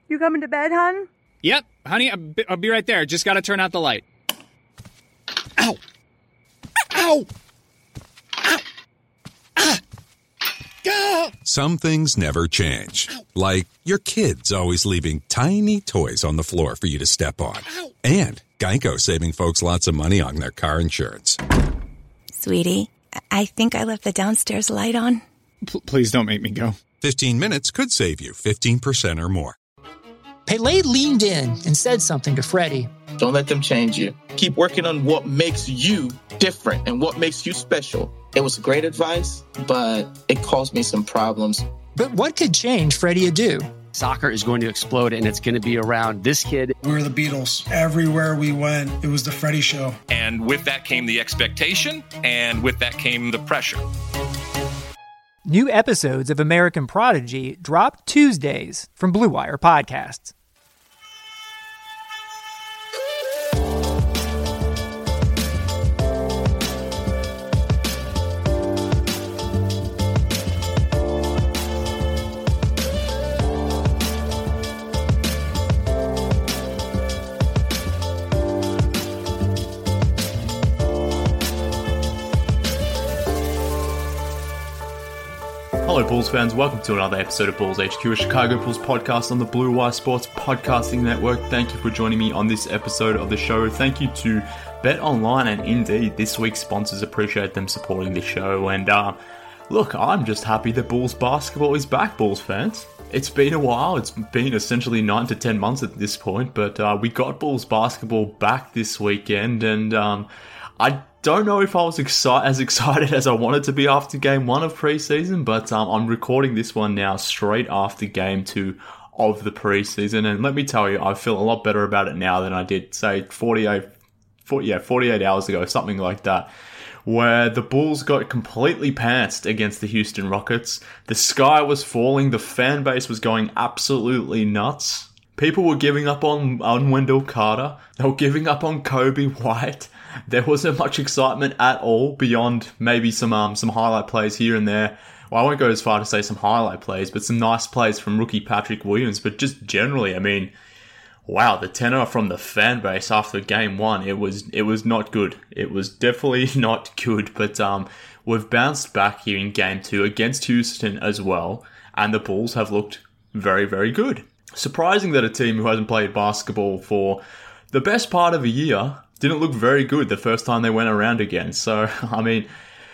You coming to bed, hon? Yep, honey, I'll be right there. Just gotta turn out the light. Ow! Ow! Ow! Ah! Ah! Some things never change. Like your kids always leaving tiny toys on the floor for you to step on. And Geico saving folks lots of money on their car insurance. Sweetie, I think I left the downstairs light on. Please don't make me go. 15 minutes could save you 15% or more. Pele leaned in and said something to Freddie. Don't let them change you. Keep working on what makes you different and what makes you special. It was great advice, but it caused me some problems. But what could change Freddie Adu? Soccer is going to explode, and it's going to be around this kid. We were the Beatles. Everywhere we went, it was the Freddie Show. And with that came the expectation, and with that came the pressure. New episodes of American Prodigy drop Tuesdays from Blue Wire Podcasts. Hello Bulls fans, welcome to another episode of Bulls HQ, a Chicago Bulls podcast on the Blue Wire Sports Podcasting Network. Thank you for joining me on this episode of the show. Thank you to Bet Online and Indeed, this week's sponsors. Appreciate them supporting the show. And look, I'm just happy that Bulls basketball is back, Bulls fans. It's been a while. It's been essentially 9 to 10 months at this point, but we got Bulls basketball back this weekend, and I don't know if I was as excited as I wanted to be after game 1 of preseason, but I'm recording this one now straight after game 2 of the preseason, and let me tell you, I feel a lot better about it now than I did, say, 48 hours ago, something like that, where the Bulls got completely pantsed against the Houston Rockets. The sky was falling, the fan base was going absolutely nuts. People were giving up on Wendell Carter, they were giving up on Kobe White. There wasn't much excitement at all beyond maybe some highlight plays here and there. Well, I won't go as far to say some highlight plays, but some nice plays from rookie Patrick Williams. But just generally, I mean, wow, the tenor from the fan base after game 1, it was not good. It was definitely not good. But we've bounced back here in game 2 against Houston as well, and the Bulls have looked very, very good. Surprising that a team who hasn't played basketball for the best part of a year didn't look very good the first time they went around again. So, I mean,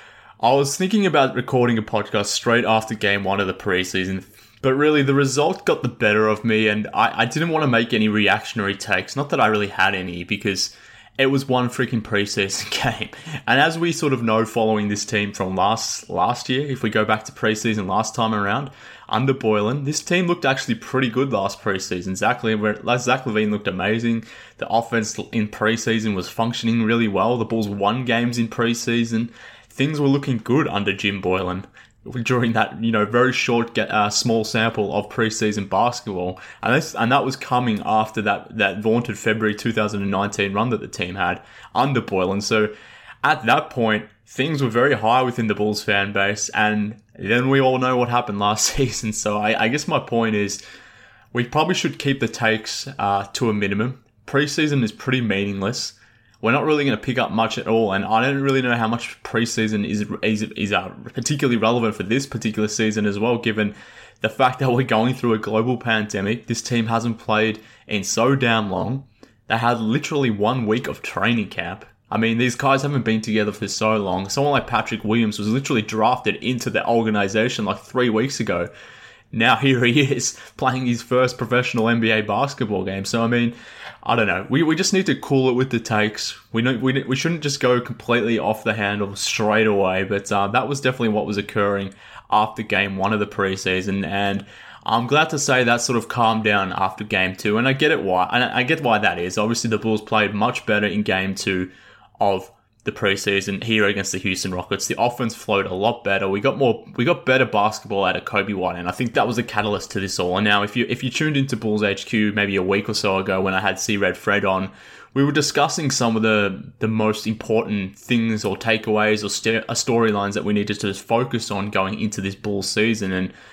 I was thinking about recording a podcast straight after game 1 of the preseason, but really the result got the better of me, and I didn't want to make any reactionary takes. Not that I really had any, because it was one freaking preseason game. And as we sort of know following this team from last year, if we go back to preseason last time around, under Boylen, this team looked actually pretty good last preseason. Zach LaVine looked amazing. The offense in preseason was functioning really well. The Bulls won games in preseason. Things were looking good under Jim Boylen during that, very short, small sample of preseason basketball. And that was coming after that vaunted February 2019 run that the team had under Boylen. So at that point, things were very high within the Bulls fan base, and then we all know what happened last season. So I guess my point is, we probably should keep the takes to a minimum. Preseason is pretty meaningless. We're not really going to pick up much at all, and I don't really know how much preseason is particularly relevant for this particular season as well, given the fact that we're going through a global pandemic. This team hasn't played in so damn long. They had literally 1 week of training camp. I mean, these guys haven't been together for so long. Someone like Patrick Williams was literally drafted into the organization like 3 weeks ago. Now here he is playing his first professional NBA basketball game. So, I mean, I don't know. We just need to cool it with the takes. We shouldn't just go completely off the handle straight away. But that was definitely what was occurring after game 1 of the preseason. And I'm glad to say that sort of calmed down after game 2. And I get it why. And I get why that is. Obviously, the Bulls played much better in game 2 of the preseason here against the Houston Rockets. The offense flowed a lot better. We got better basketball out of Kobe White, and I think that was a catalyst to this all. And now, if you tuned into Bulls HQ maybe a week or so ago when I had C-Red Fred on, we were discussing some of the most important things or takeaways or storylines that we needed to focus on going into this Bulls season. And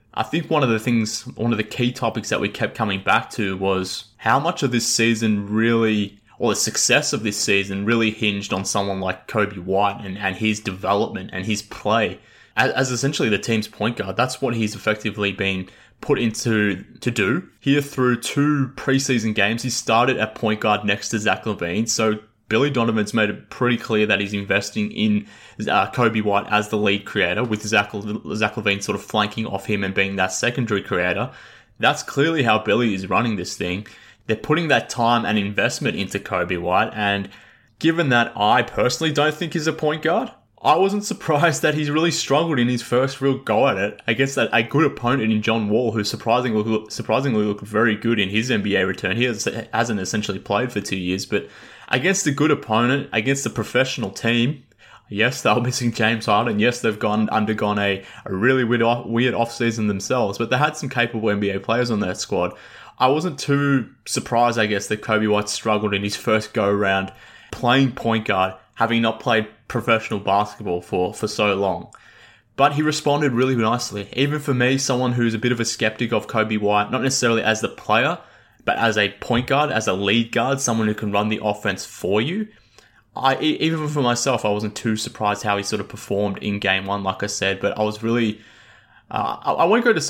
I think one of the key topics that we kept coming back to was how much of this season really, or the success of this season really hinged on someone like Coby White and his development and his play as essentially the team's point guard. That's what he's effectively been put into to do. Here through 2 preseason games, he started at point guard next to Zach LaVine. So Billy Donovan's made it pretty clear that he's investing in Coby White as the lead creator, with Zach LaVine sort of flanking off him and being that secondary creator. That's clearly how Billy is running this thing. They're putting that time and investment into Coby White, and given that I personally don't think he's a point guard, I wasn't surprised that he's really struggled in his first real go at it against a good opponent in John Wall, who surprisingly looked very good in his NBA return. He hasn't essentially played for 2 years, but against a good opponent, against a professional team, yes, they were missing James Harden. Yes, they've undergone a really weird offseason themselves, but they had some capable NBA players on that squad. I wasn't too surprised, I guess, that Coby White struggled in his first go-around playing point guard, having not played professional basketball for so long. But he responded really nicely. Even for me, someone who's a bit of a skeptic of Coby White, not necessarily as the player, but as a point guard, as a lead guard, someone who can run the offense for you. Even for myself, I wasn't too surprised how he sort of performed in game 1, like I said, but I was really... I won't go as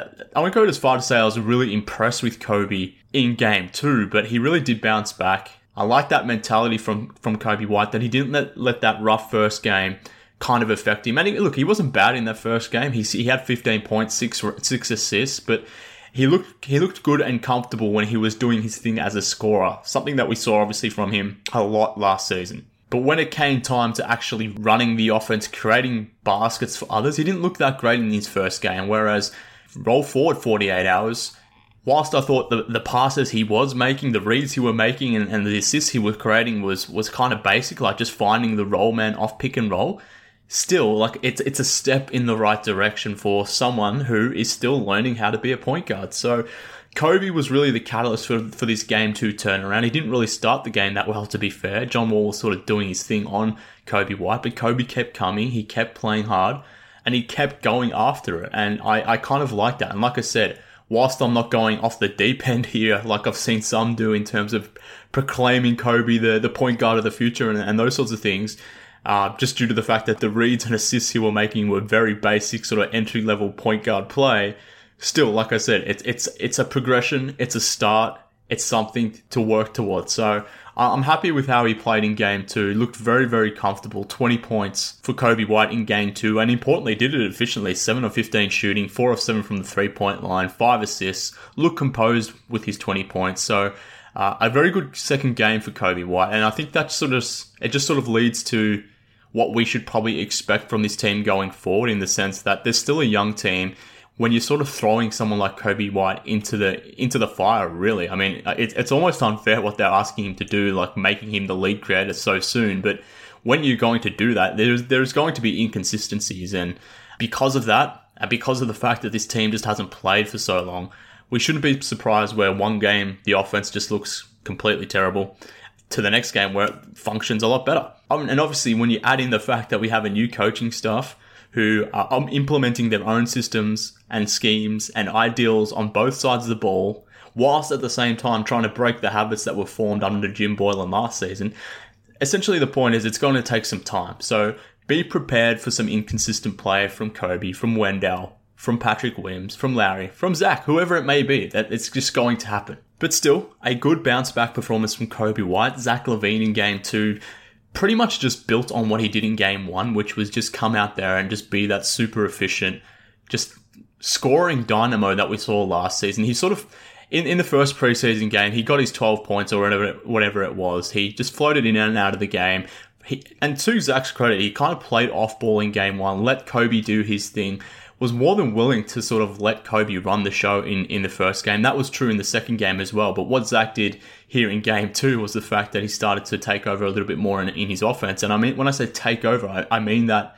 far to say I was really impressed with Coby in game 2, but he really did bounce back. I like that mentality from Coby White, that he didn't let that rough first game kind of affect him. And he wasn't bad in that first game. He had 15 points, 6 assists, but he looked good and comfortable when he was doing his thing as a scorer, something that we saw obviously from him a lot last season. But when it came time to actually running the offense, creating baskets for others, he didn't look that great in his first game. Whereas, roll forward 48 hours, whilst I thought the passes he was making, the reads he were making, and the assists he was creating was kind of basic, like just finding the roll man off pick and roll, still, like it's a step in the right direction for someone who is still learning how to be a point guard. So Coby was really the catalyst for this game 2 turnaround. He didn't really start the game that well, to be fair. John Wall was sort of doing his thing on Coby White, but Coby kept coming, he kept playing hard, and he kept going after it. And I kind of like that. And like I said, whilst I'm not going off the deep end here, like I've seen some do in terms of proclaiming Coby the point guard of the future and those sorts of things, just due to the fact that the reads and assists he were making were very basic sort of entry-level point guard play, still, like I said, it's a progression, it's a start, it's something to work towards. So I'm happy with how he played in game 2. Looked very, very comfortable. 20 points for Coby White in game 2, and importantly, did it efficiently. 7 of 15 shooting, 4 of 7 from the 3-point line, 5 assists. Looked composed with his 20 points. So a very good second game for Coby White, and I think that just sort of leads to what we should probably expect from this team going forward, in the sense that they're still a young team. When you're sort of throwing someone like Coby White into the fire, really, I mean, it's almost unfair what they're asking him to do, like making him the lead creator so soon. But when you're going to do that, there's going to be inconsistencies, and because of that, and because of the fact that this team just hasn't played for so long, we shouldn't be surprised where one game the offense just looks completely terrible, to the next game where it functions a lot better. And obviously, when you add in the fact that we have a new coaching staff who are implementing their own systems and schemes and ideals on both sides of the ball, whilst at the same time trying to break the habits that were formed under Jim Boylen last season, essentially the point is it's going to take some time. So be prepared for some inconsistent play from Coby, from Wendell, from Patrick Williams, from Lowry, from Zach, whoever it may be. That it's just going to happen. But still, a good bounce-back performance from Coby White. Zach LaVine in game 2 pretty much just built on what he did in game 1, which was just come out there and just be that super efficient, just scoring dynamo that we saw last season. He sort of, in the first preseason game, he got his 12 points or whatever it was. He just floated in and out of the game. And to Zach's credit, he kind of played off-ball in game 1, let Coby do his thing, was more than willing to sort of let Coby run the show in the first game. That was true in the second game as well. But what Zach did here in game 2 was the fact that he started to take over a little bit more in his offense. And I mean, when I say take over, I mean that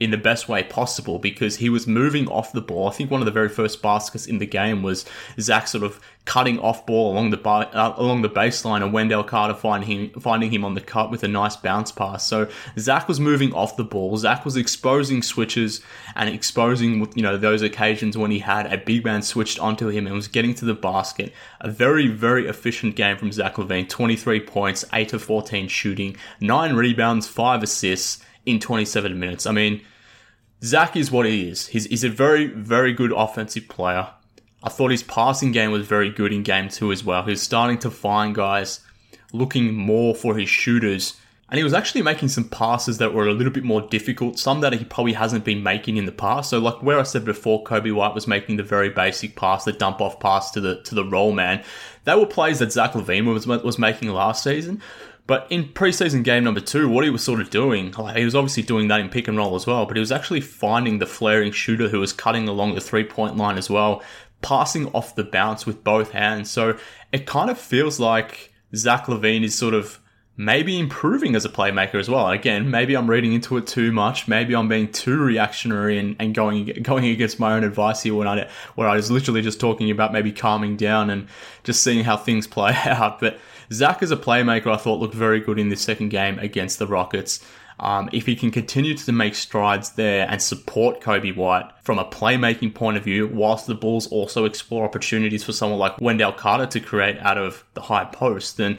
in the best way possible because he was moving off the ball. I think one of the very first baskets in the game was Zach sort of cutting off ball along the baseline and Wendell Carter finding him on the cut with a nice bounce pass. So Zach was moving off the ball. Zach was exposing switches and exposing, those occasions when he had a big man switched onto him and was getting to the basket. A very, very efficient game from Zach LaVine. 23 points, 8 of 14 shooting, 9 rebounds, 5 assists in 27 minutes. I mean, Zach is what he is. He's a very, very good offensive player. I thought his passing game was very good in game 2 as well. He was starting to find guys looking more for his shooters. And he was actually making some passes that were a little bit more difficult, some that he probably hasn't been making in the past. So like where I said before, Kobe White was making the very basic pass, the dump-off pass to the roll man. They were plays that Zach LaVine was making last season. But in preseason game number 2, what he was sort of doing, he was obviously doing that in pick and roll as well, but he was actually finding the flaring shooter who was cutting along the 3-point line as well, passing off the bounce with both hands. So it kind of feels like Zach LaVine is sort of maybe improving as a playmaker as well. Again, maybe I'm reading into it too much. Maybe I'm being too reactionary and going against my own advice here where I was literally just talking about maybe calming down and just seeing how things play out. But Zach as a playmaker, I thought looked very good in this second game against the Rockets. If he can continue to make strides there and support Kobe White from a playmaking point of view, whilst the Bulls also explore opportunities for someone like Wendell Carter to create out of the high post, then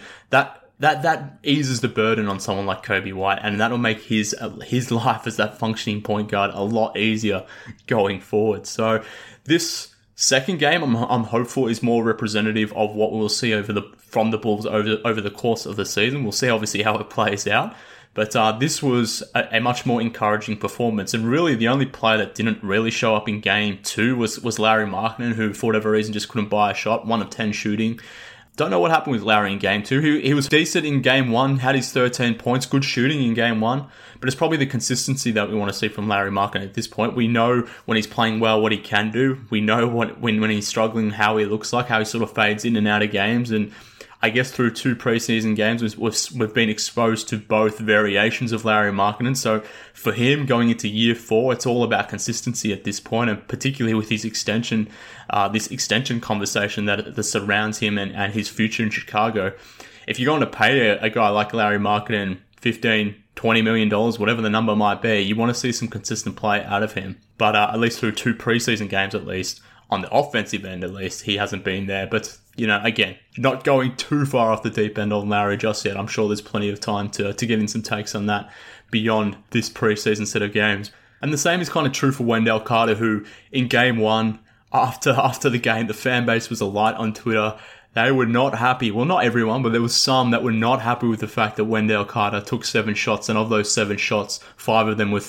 that eases the burden on someone like Kobe White, and that'll make his life as that functioning point guard a lot easier going forward. So this second game, I'm hopeful, is more representative of what we'll see from the Bulls over the course of the season. We'll see obviously how it plays out. But this was a much more encouraging performance. And really, the only player that didn't really show up in Game 2 was Lauri Markkanen, who, for whatever reason, just couldn't buy a shot. 1 of 10 shooting. Don't know what happened with Lauri in Game 2. He was decent in Game 1, had his 13 points, good shooting in Game 1. But it's probably the consistency that we want to see from Lauri Markkanen at this point. We know when he's playing well what he can do. We know when he's struggling how he looks like, how he sort of fades in and out of games. And I guess through 2 preseason games, we've been exposed to both variations of Lauri Markkanen. So for him going into year 4, it's all about consistency at this point, and particularly with his extension, this extension conversation that surrounds him and his future in Chicago. If you're going to pay a guy like Lauri Markkanen $15, $20 million, whatever the number might be, you want to see some consistent play out of him. But at least through 2 preseason games, at least, on the offensive end at least, he hasn't been there. But, again, not going too far off the deep end on Lauri just yet. I'm sure there's plenty of time to get in some takes on that beyond this preseason set of games. And the same is kind of true for Wendell Carter, who in Game 1, after the game, the fan base was alight on Twitter. They were not happy. Well, not everyone, but there was some that were not happy with the fact that Wendell Carter took 7 shots, and of those 7 shots, 5 of them were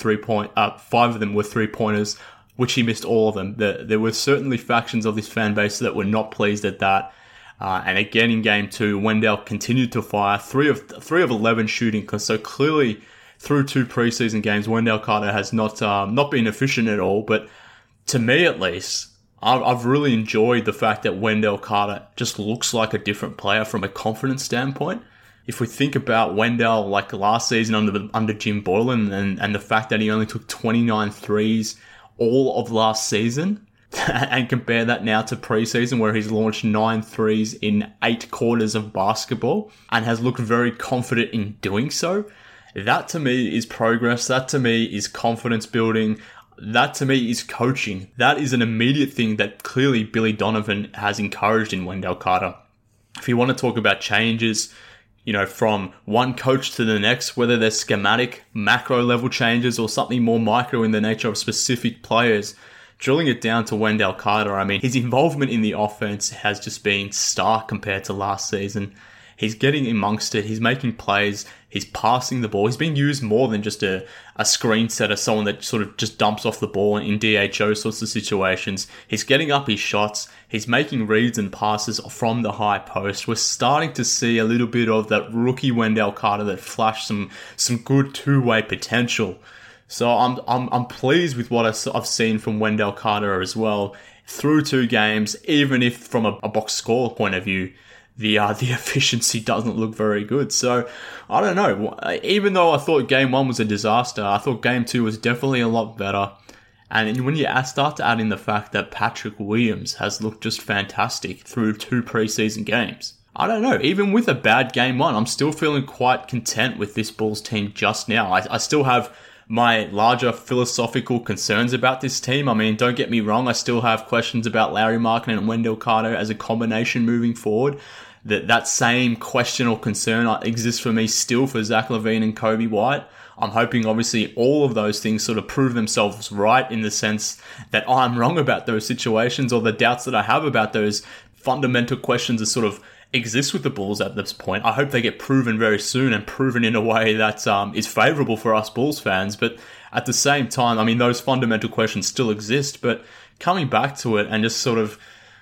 3-pointers, which he missed all of them. There were certainly factions of this fan base that were not pleased at that. And again in Game 2, Wendell continued to fire 3 of 11 shooting. So clearly, through 2 preseason games, Wendell Carter has not been efficient at all. But to me, at least, I've really enjoyed the fact that Wendell Carter just looks like a different player from a confidence standpoint. If we think about Wendell like last season under Jim Boylen and the fact that he only took 29 threes all of last season, and compare that now to preseason where he's launched 9 threes in 8 quarters of basketball and has looked very confident in doing so, that to me is progress. That to me is confidence building. That to me is coaching. That is an immediate thing that clearly Billy Donovan has encouraged in Wendell Carter. If you want to talk about changes, from one coach to the next, whether they're schematic, macro level changes or something more micro in the nature of specific players, drilling it down to Wendell Carter, I mean, his involvement in the offense has just been stark compared to last season. He's getting amongst it. He's making plays. He's passing the ball. He's being used more than just a screen setter, someone that sort of just dumps off the ball in DHO sorts of situations. He's getting up his shots. He's making reads and passes from the high post. We're starting to see a little bit of that rookie Wendell Carter that flashed some good two-way potential. So I'm pleased with what I've seen from Wendell Carter as well through 2 games, even if from a box score point of view, the efficiency doesn't look very good. So I don't know. Even though I thought game 1 was a disaster, I thought game 2 was definitely a lot better. And when you start to add in the fact that Patrick Williams has looked just fantastic through 2 preseason games, I don't know. Even with a bad game 1, I'm still feeling quite content with this Bulls team just now. I still have my larger philosophical concerns about this team. I mean, don't get me wrong, I still have questions about Lauri Markkanen and Wendell Carter as a combination moving forward. That same question or concern exists for me still for Zach LaVine and Kobe White. I'm hoping, obviously, all of those things sort of prove themselves right in the sense that I'm wrong about those situations, or the doubts that I have about those fundamental questions that sort of exist with the Bulls at this point. I hope they get proven very soon and proven in a way that is favourable for us Bulls fans. But at the same time, I mean, those fundamental questions still exist. But coming back to it and just sort of,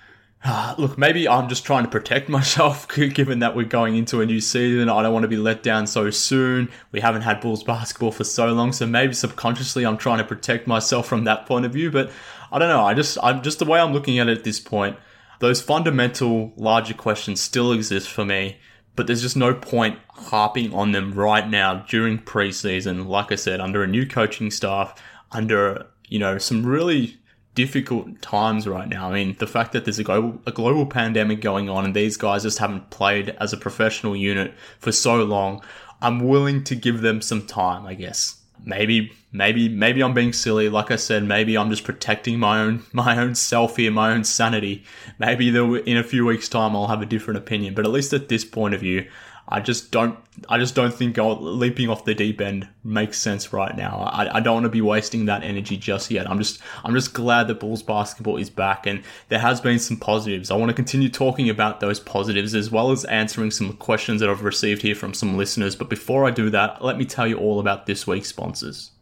look, maybe I'm just trying to protect myself given that we're going into a new season. I don't want to be let down so soon. We haven't had Bulls basketball for so long, so maybe subconsciously I'm trying to protect myself from that point of view. But I don't know. I'm just the way I'm looking at it at this point, those fundamental larger questions still exist for me, but there's just no point harping on them right now during preseason. Like I said, under a new coaching staff, under, some really difficult times right now. I mean, the fact that there's a global pandemic going on and these guys just haven't played as a professional unit for so long, I'm willing to give them some time, I guess. Maybe I'm being silly. Like I said, maybe I'm just protecting my own self here, my own sanity. Maybe in a few weeks' time I'll have a different opinion. But at least at this point of view, I just don't think leaping off the deep end makes sense right now. I don't want to be wasting that energy just yet. I'm just glad that Bulls basketball is back and there has been some positives. I want to continue talking about those positives as well as answering some questions that I've received here from some listeners. But before I do that, let me tell you all about this week's sponsors.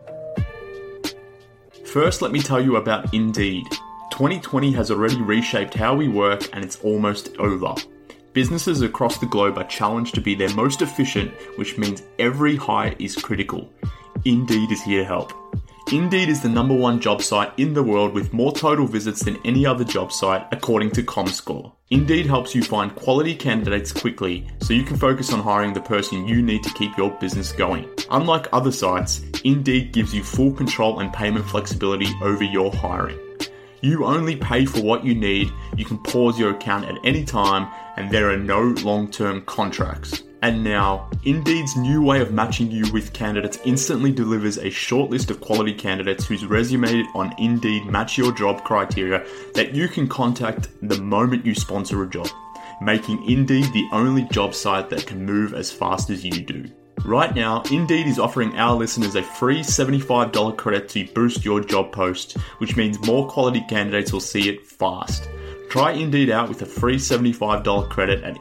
First, let me tell you about Indeed. 2020 has already reshaped how we work and it's almost over. Businesses across the globe are challenged to be their most efficient, which means every hire is critical. Indeed is here to help. Indeed is the #1 job site in the world with more total visits than any other job site, according to Comscore. Indeed helps you find quality candidates quickly, so you can focus on hiring the person you need to keep your business going. Unlike other sites, Indeed gives you full control and payment flexibility over your hiring. You only pay for what you need, you can pause your account at any time, and there are no long-term contracts. And now, Indeed's new way of matching you with candidates instantly delivers a short list of quality candidates whose resume on Indeed match your job criteria that you can contact the moment you sponsor a job, making Indeed the only job site that can move as fast as you do. Right now, Indeed is offering our listeners a free $75 credit to boost your job post, which means more quality candidates will see it fast. Try Indeed out with a free $75 credit at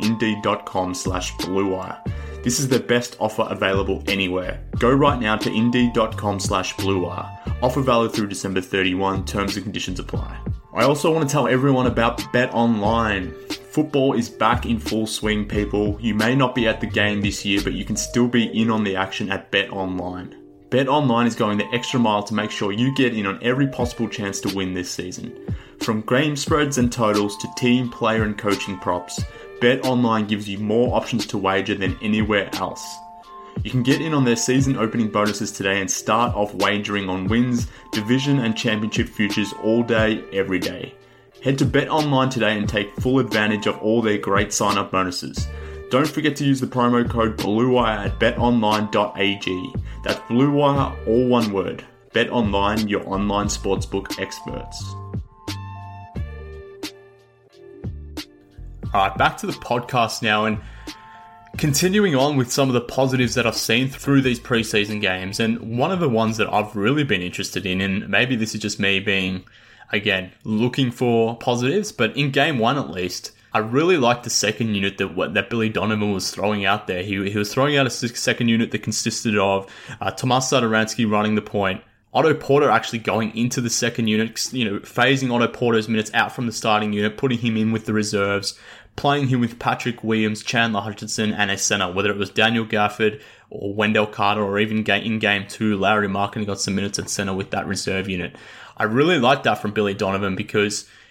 Indeed.com/BlueWire. This is the best offer available anywhere. Go right now to Indeed.com/BlueWire. Offer valid through December 31. Terms and conditions apply. I also want to tell everyone about BetOnline. Football is back in full swing, people. You may not be at the game this year, but you can still be in on the action at BetOnline. BetOnline is going the extra mile to make sure you get in on every possible chance to win this season. From game spreads and totals to team, player and coaching props, BetOnline gives you more options to wager than anywhere else. You can get in on their season opening bonuses today and start off wagering on wins, division and championship futures all day, every day. Head to BetOnline today and take full advantage of all their great sign-up bonuses. Don't forget to use the promo code BlueWire at betonline.ag. That's BlueWire, all one word. BetOnline, your online sportsbook experts. Alright, back to the podcast now and continuing on with some of the positives that I've seen through these preseason games. And one of the ones that I've really been interested in, and maybe this is just me being, again, looking for positives, but in game 1 at least, I really liked the second unit that Billy Donovan was throwing out there. He was throwing out a second unit that consisted of Tomas Satoransky running the point, Otto Porter actually going into the second unit, phasing Otto Porter's minutes out from the starting unit, putting him in with the reserves, playing him with Patrick Williams, Chandler Hutchinson, and a center, whether it was Daniel Gafford or Wendell Carter, or even in game 2, Lauri Markkanen got some minutes at center with that reserve unit. I really like that from Billy Donovan because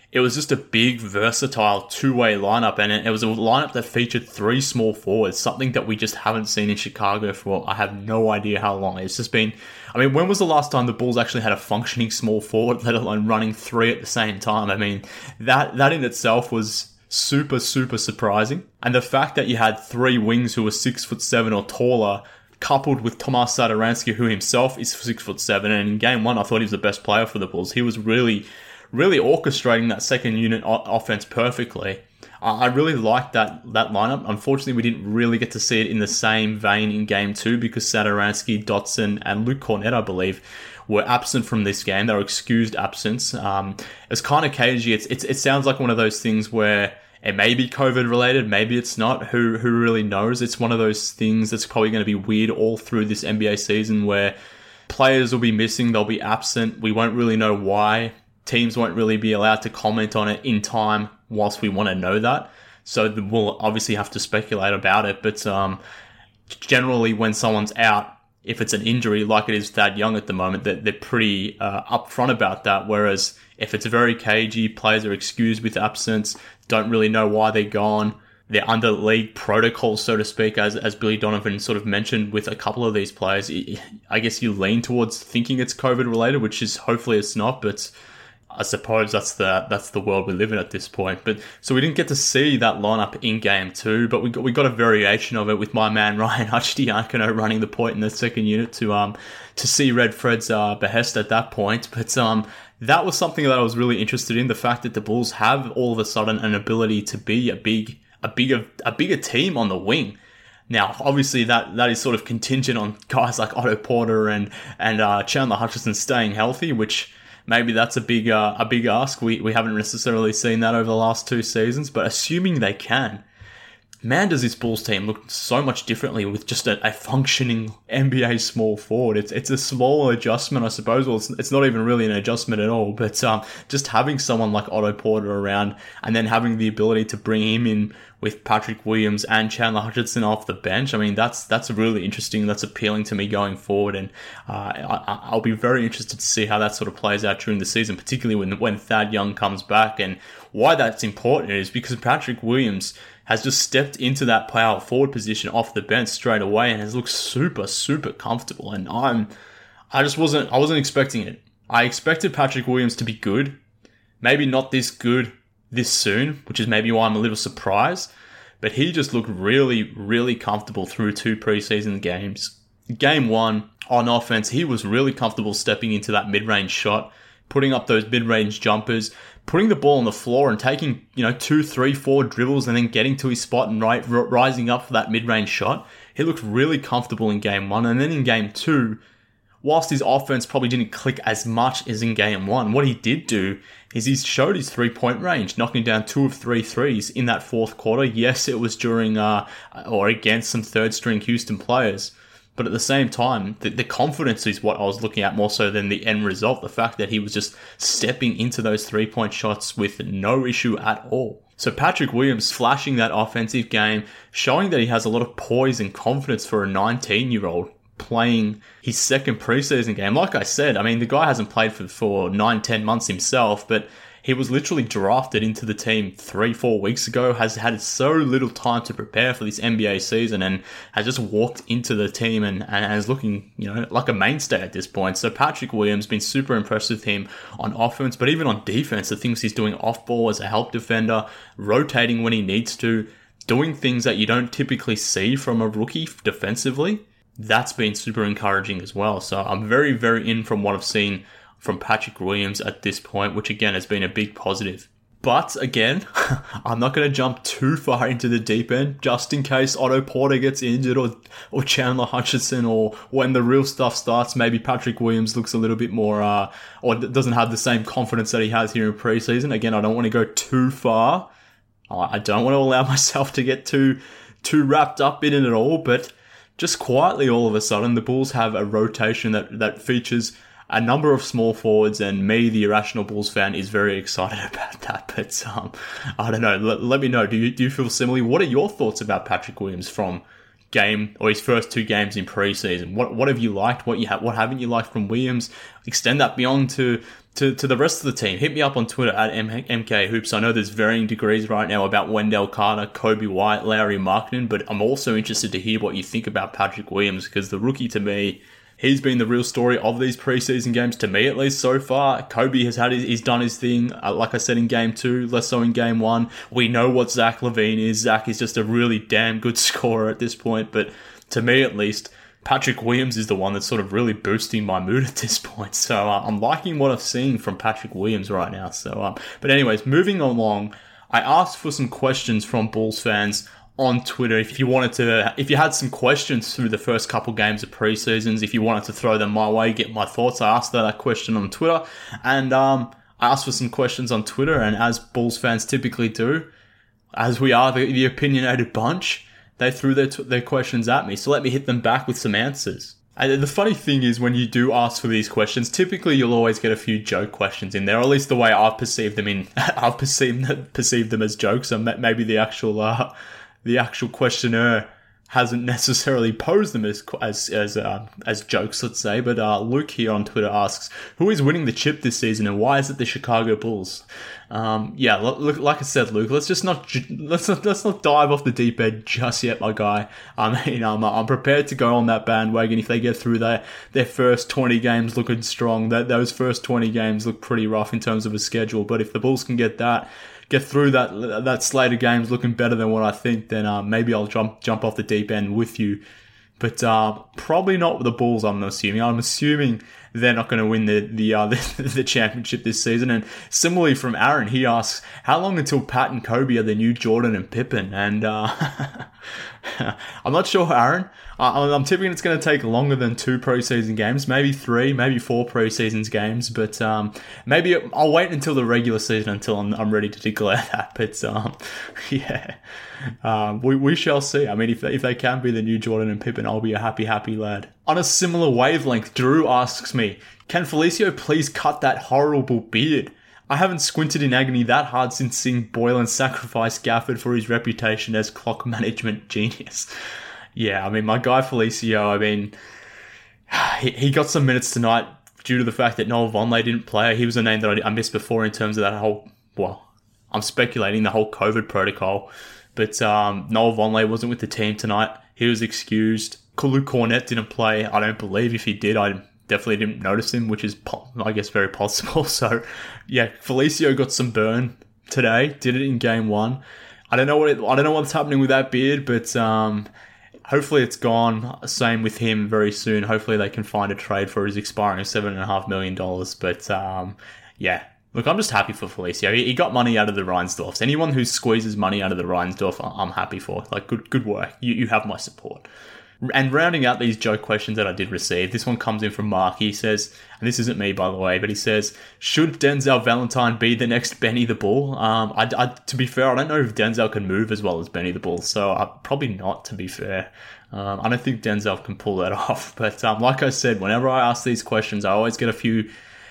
it was just a big, versatile two-way lineup, and it was a lineup that featured 3 small forwards, something that we just haven't seen in Chicago for I have no idea how long. It's just been, I mean, when was the last time the Bulls actually had a functioning small forward, let alone running 3 at the same time? I mean, that in itself was super, super surprising. And the fact that you had 3 wings who were 6'7" or taller, coupled with Tomas Satoransky, who himself is 6'7", and in game 1, I thought he was the best player for the Bulls. He was really orchestrating that second unit offense perfectly. I really liked that lineup. Unfortunately, we didn't really get to see it in the same vein in game 2 because Satoransky, Dotson, and Luke Cornett, I believe, were absent from this game. They were excused absence. It's kind of cagey. It sounds like one of those things where it may be COVID related, maybe it's not. Who really knows? It's one of those things that's probably going to be weird all through this NBA season where players will be missing, they'll be absent. We won't really know why. Teams won't really be allowed to comment on it in time whilst we want to know that. So we'll obviously have to speculate about it. But generally when someone's out, if it's an injury like it is Thad Young at the moment, they're pretty upfront about that. Whereas if it's very cagey, players are excused with absence, don't really know why they're gone. They're under league protocol, so to speak, as Billy Donovan sort of mentioned with a couple of these players. I guess you lean towards thinking it's COVID related, which is hopefully it's not, but I suppose that's the world we live in at this point. But so we didn't get to see that lineup in game 2, but we got a variation of it with my man Ryan Hutchediakono running the point in the second unit to see Red Fred's behest at that point. But that was something that I was really interested in, the fact that the Bulls have all of a sudden an ability to be a bigger team on the wing. Now, obviously, that is sort of contingent on guys like Otto Porter and Chandler Hutchison staying healthy, which maybe that's a big ask. We haven't necessarily seen that over the last 2 seasons, but assuming they can, man, does this Bulls team look so much differently with just a functioning NBA small forward. It's a small adjustment, I suppose. Well, it's not even really an adjustment at all, but just having someone like Otto Porter around and then having the ability to bring him in with Patrick Williams and Chandler Hutchison off the bench, I mean, that's really interesting. That's appealing to me going forward, and I'll be very interested to see how that sort of plays out during the season, particularly when Thad Young comes back. And why that's important is because Patrick Williams has just stepped into that power forward position off the bench straight away and has looked super, super comfortable. And I wasn't expecting it. I expected Patrick Williams to be good. Maybe not this good this soon, which is maybe why I'm a little surprised. But he just looked really, really comfortable through 2 preseason games. Game 1, on offense, he was really comfortable stepping into that mid-range shot, putting up those mid-range jumpers, putting the ball on the floor and taking, 2, 3, 4 dribbles and then getting to his spot and rising up for that mid-range shot. He looked really comfortable in game 1. And then in game 2, whilst his offense probably didn't click as much as in game 1, what he did do is he showed his 3-point range, knocking down 2 of 3 threes in that fourth quarter. Yes, it was during or against some third-string Houston players. But at the same time, the confidence is what I was looking at more so than the end result. The fact that he was just stepping into those 3-point shots with no issue at all. So Patrick Williams flashing that offensive game, showing that he has a lot of poise and confidence for a 19-year-old playing his second preseason game. Like I said, I mean, the guy hasn't played for 9-10 months himself, but he was literally drafted into the team 3-4 weeks ago, has had so little time to prepare for this NBA season, and has just walked into the team and is looking, like a mainstay at this point. So Patrick Williams, been super impressed with him on offense, but even on defense, the things he's doing off ball as a help defender, rotating when he needs to, doing things that you don't typically see from a rookie defensively, that's been super encouraging as well. So I'm very, very in from what I've seen from Patrick Williams at this point, which again has been a big positive. But again, I'm not going to jump too far into the deep end, just in case Otto Porter gets injured or Chandler Hutchison, or when the real stuff starts, maybe Patrick Williams looks a little bit more, or doesn't have the same confidence that he has here in preseason. Again, I don't want to go too far. I don't want to allow myself to get too wrapped up in it at all, but just quietly all of a sudden, the Bulls have a rotation that features a number of small forwards, and me, the irrational Bulls fan, is very excited about that. But I don't know. Let me know. Do you feel similarly? What are your thoughts about Patrick Williams from his first 2 games in preseason? What have you liked? What haven't you liked from Williams? Extend that beyond to to the rest of the team, hit me up on Twitter at MKHoops. I know there's varying degrees right now about Wendell Carter, Kobe White, Lauri Markkanen, but I'm also interested to hear what you think about Patrick Williams, because the rookie, to me, he's been the real story of these preseason games, to me at least so far. Kobe he's done his thing, like I said, in game 2, less so in game 1. We know what Zach LaVine is. Zach is just a really damn good scorer at this point, but to me at least, Patrick Williams is the one that's sort of really boosting my mood at this point. So I'm liking what I'm seeing from Patrick Williams right now. So, but anyways, moving along, I asked for some questions from Bulls fans on Twitter. If you had some questions through the first couple games of preseasons, if you wanted to throw them my way, get my thoughts, I asked that question on Twitter. And I asked for some questions on Twitter, and as Bulls fans typically do, as we are the opinionated bunch, they threw their questions at me, so let me hit them back with some answers. And the funny thing is, when you do ask for these questions, typically you'll always get a few joke questions in there, or at least the way I've perceived them I've perceived them as jokes. So maybe the actual questioner hasn't necessarily posed them as jokes, let's say. But Luke here on Twitter asks, who is winning the chip this season, and why is it the Chicago Bulls? Look, like I said, Luke, let's not dive off the deep end just yet, my guy. I mean, I'm prepared to go on that bandwagon if they get through their first 20 games looking strong. Those first 20 games look pretty rough in terms of a schedule, but if the Bulls can get through that slate of games looking better than what I think, then maybe I'll jump off the deep end with you. But probably not with the Bulls, I'm assuming. I'm assuming they're not going to win the championship this season. And similarly from Aaron, he asks, how long until Pat and Kobe are the new Jordan and Pippen? And I'm not sure, Aaron. I'm tipping it's going to take longer than 2 preseason games, maybe 3, maybe 4 preseason games. But maybe I'll wait until the regular season until I'm ready to declare that. But we shall see. I mean, if they can be the new Jordan and Pippen, I'll be a happy lad. On a similar wavelength, Drew asks me, can Felicio please cut that horrible beard? I haven't squinted in agony that hard since seeing Boylan sacrifice Gafford for his reputation as clock management genius. Yeah, I mean, my guy Felicio, I mean, he got some minutes tonight due to the fact that Noah Vonleh didn't play. He was a name that I missed before in terms of that whole, I'm speculating the whole COVID protocol. But Noah Vonleh wasn't with the team tonight. He was excused. Luke Kornet didn't play. I don't believe if he did, I definitely didn't notice him, which is, I guess, very possible. So, yeah, Felicio got some burn today. Did it in game 1. I don't know what's happening with that beard, but hopefully it's gone. Same with him very soon. Hopefully they can find a trade for his expiring $7.5 million. But yeah. Look, I'm just happy for Felicio. He got money out of the Reinsdorfs. Anyone who squeezes money out of the Reinsdorf, I'm happy for. Like, good work. You have my support. And rounding out these joke questions that I did receive, this one comes in from Mark. He says, and this isn't me, by the way, but he says, should Denzel Valentine be the next Benny the Bull? To be fair, I don't know if Denzel can move as well as Benny the Bull, so probably not, to be fair. I don't think Denzel can pull that off. But like I said, whenever I ask these questions, I always get a few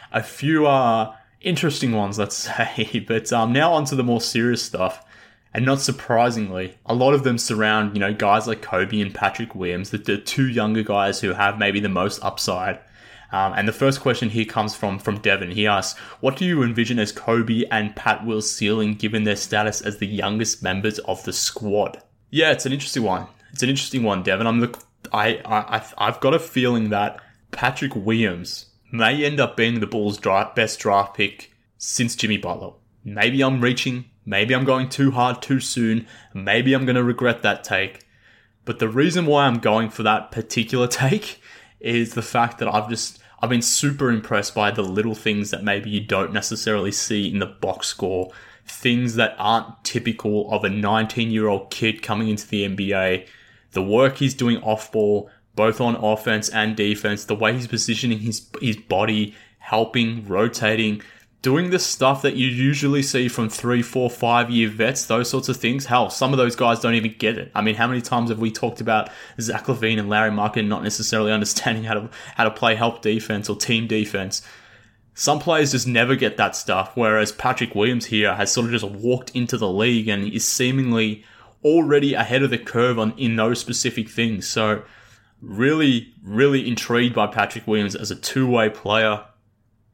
interesting ones, let's say. But now onto the more serious stuff. And not surprisingly, a lot of them surround, guys like Kobe and Patrick Williams, the 2 younger guys who have maybe the most upside. And the first question here comes from Devin. He asks, what do you envision as Kobe and Pat Will's ceiling given their status as the youngest members of the squad? Yeah, it's an interesting one. Devin. I've got a feeling that Patrick Williams may end up being the Bulls' best draft pick since Jimmy Butler. Maybe I'm reaching. Maybe I'm going too hard too soon. Maybe I'm going to regret that take. But the reason why I'm going for that particular take is the fact that I've been super impressed by the little things that maybe you don't necessarily see in the box score. Things that aren't typical of a 19-year-old kid coming into the NBA. The work he's doing off ball, both on offense and defense. The way he's positioning his body, helping, rotating, doing the stuff that you usually see from 3, 4, 5-year vets, those sorts of things. Hell, some of those guys don't even get it. I mean, how many times have we talked about Zach LaVine and Lauri Markkanen not necessarily understanding how to play help defense or team defense? Some players just never get that stuff, whereas Patrick Williams here has sort of just walked into the league and is seemingly already ahead of the curve in those specific things. So really, really intrigued by Patrick Williams as a two-way player.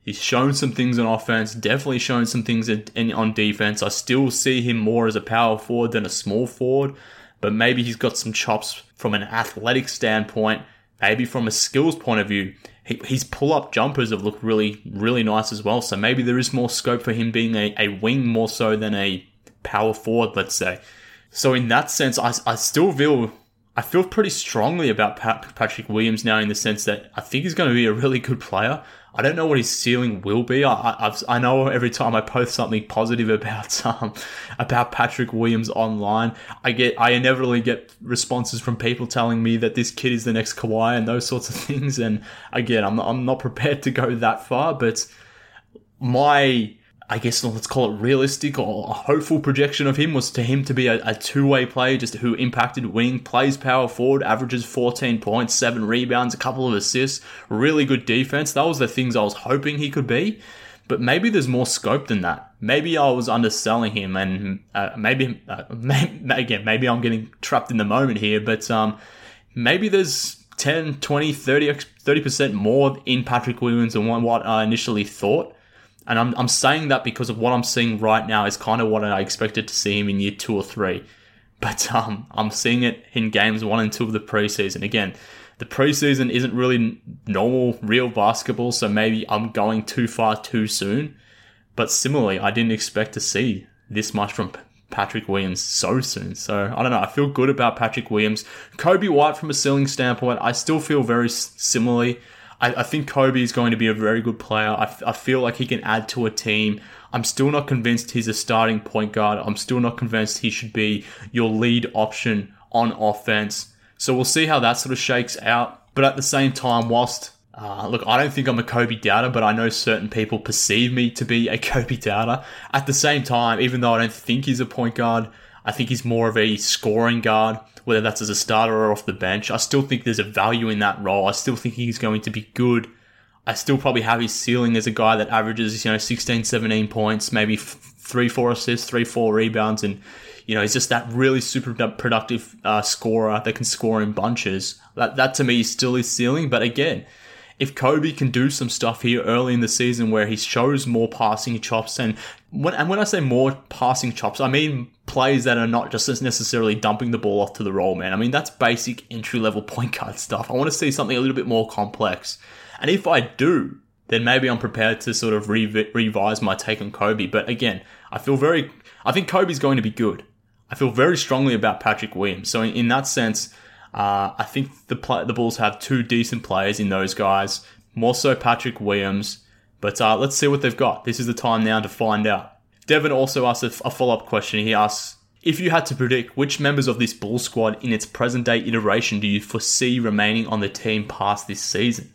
He's shown some things on offense, definitely shown some things on defense. I still see him more as a power forward than a small forward, but maybe he's got some chops from an athletic standpoint, maybe from a skills point of view. His pull-up jumpers have looked really, really nice as well, so maybe there is more scope for him being a wing more so than a power forward, let's say. So in that sense, I still feel pretty strongly about Patrick Williams now, in the sense that I think he's going to be a really good player. I don't know what his ceiling will be. I know every time I post something positive about Patrick Williams online, I inevitably get responses from people telling me that this kid is the next Kawhi and those sorts of things. And again, I'm not prepared to go that far, but I guess let's call it realistic or a hopeful projection of him was to him to be a two-way player, just who impacted wing, plays power forward, averages 14 points, 7 rebounds, a couple of assists, really good defense. That was the things I was hoping he could be. But maybe there's more scope than that. Maybe I was underselling him, and maybe I'm getting trapped in the moment here, but maybe there's 10, 20, 30% more in Patrick Williams than what I initially thought. And I'm saying that because of what I'm seeing right now is kind of what I expected to see him in year 2 or 3. But I'm seeing it in games 1 and 2 of the preseason. Again, the preseason isn't really normal, real basketball, so maybe I'm going too far too soon. But similarly, I didn't expect to see this much from Patrick Williams so soon. So, I don't know. I feel good about Patrick Williams. Coby White, from a ceiling standpoint, I still feel very similarly. I think Kobe is going to be a very good player. I feel like he can add to a team. I'm still not convinced he's a starting point guard. I'm still not convinced he should be your lead option on offense. So we'll see how that sort of shakes out. But at the same time, whilst, look, I don't think I'm a Kobe doubter, but I know certain people perceive me to be a Kobe doubter. At the same time, even though I don't think he's a point guard, I think he's more of a scoring guard, whether that's as a starter or off the bench. I still think there's a value in that role. I still think he's going to be good. I still probably have his ceiling as a guy that averages, 16, 17 points, maybe 3-4 assists, 3-4 rebounds, and, he's just that really super productive scorer that can score in bunches. That to me is still his ceiling. But again, if Kobe can do some stuff here early in the season where he shows more passing chops, and when I say more passing chops, I mean plays that are not just necessarily dumping the ball off to the roll man. I mean, that's basic entry-level point guard stuff. I want to see something a little bit more complex. And if I do, then maybe I'm prepared to sort of revise my take on Kobe. But again, I think Kobe's going to be good. I feel very strongly about Patrick Williams. So in that sense, I think the Bulls have 2 decent players in those guys, more so Patrick Williams. But let's see what they've got. This is the time now to find out. Devin also asked a follow-up question. He asks, if you had to predict which members of this Bulls squad in its present-day iteration do you foresee remaining on the team past this season?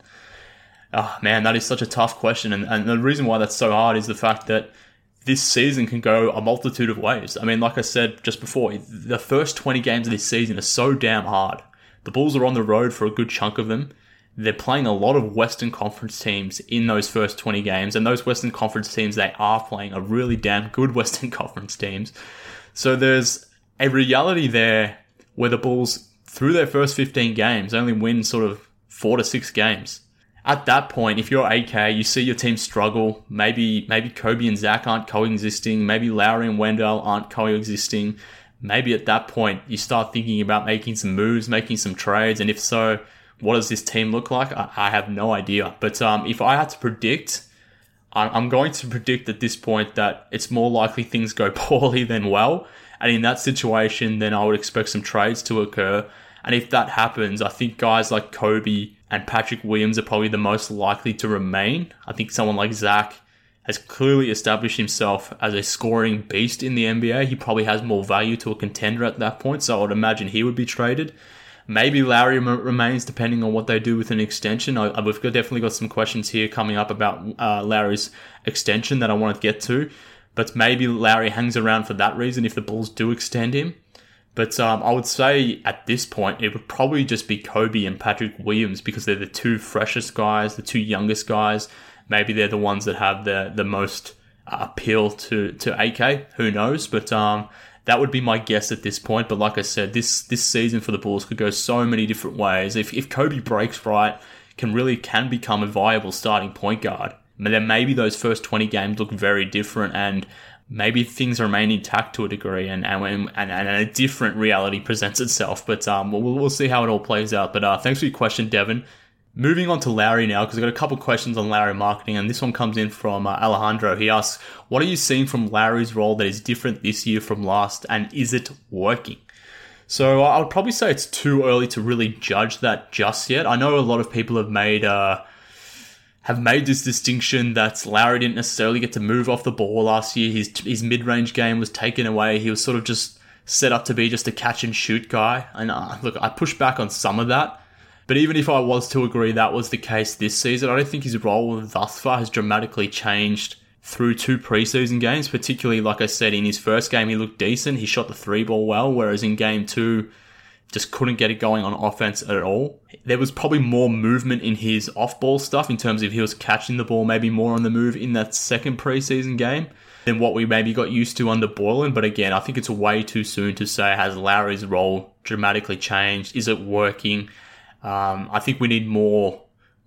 Oh, man, that is such a tough question. And the reason why that's so hard is the fact that this season can go a multitude of ways. I mean, like I said just before, the first 20 games of this season are so damn hard. The Bulls are on the road for a good chunk of them. They're playing a lot of Western Conference teams in those first 20 games, and those Western Conference teams they are playing are really damn good Western Conference teams. So there's a reality there where the Bulls, through their first 15 games, only win sort of 4 to 6 games. At that point, if you're AK, you see your team struggle. Maybe Kobe and Zach aren't coexisting. Maybe Lowry and Wendell aren't coexisting. Maybe at that point, you start thinking about making some moves, making some trades, and if so, what does this team look like? I have no idea. But if I had to predict, I'm going to predict at this point that it's more likely things go poorly than well. And in that situation, then I would expect some trades to occur. And if that happens, I think guys like Kobe and Patrick Williams are probably the most likely to remain. I think someone like Zach has clearly established himself as a scoring beast in the NBA. He probably has more value to a contender at that point, so I would imagine he would be traded. Maybe Lowry remains, depending on what they do with an extension. We've definitely got some questions here coming up about Lowry's extension that I want to get to. But maybe Lowry hangs around for that reason if the Bulls do extend him. But I would say at this point, it would probably just be Kobe and Patrick Williams because they're the 2 freshest guys, the 2 youngest guys. Maybe they're the ones that have the most appeal to AK. Who knows? But that would be my guess at this point. But like I said, this season for the Bulls could go so many different ways. If Kobe breaks right, can become a viable starting point guard, then maybe those first 20 games look very different, and maybe things remain intact to a degree, and a different reality presents itself. But we'll see how it all plays out. But thanks for your question, Devin. Moving on to Lowry now, because I've got a couple questions on Lowry marketing, and this one comes in from Alejandro. He asks, what are you seeing from Lowry's role that is different this year from last, and is it working? So I would probably say it's too early to really judge that just yet. I know a lot of people have made this distinction that Lowry didn't necessarily get to move off the ball last year. His mid-range game was taken away. He was sort of just set up to be just a catch-and-shoot guy. And look, I push back on some of that. But even if I was to agree that was the case this season, I don't think his role thus far has dramatically changed through 2 preseason games. Particularly, like I said, in his first game, he looked decent. He shot the 3-ball well, whereas in game 2, just couldn't get it going on offense at all. There was probably more movement in his off-ball stuff in terms of he was catching the ball maybe more on the move in that second preseason game than what we maybe got used to under Boylen. But again, I think it's way too soon to say, has Lowry's role dramatically changed? Is it working? I think we need more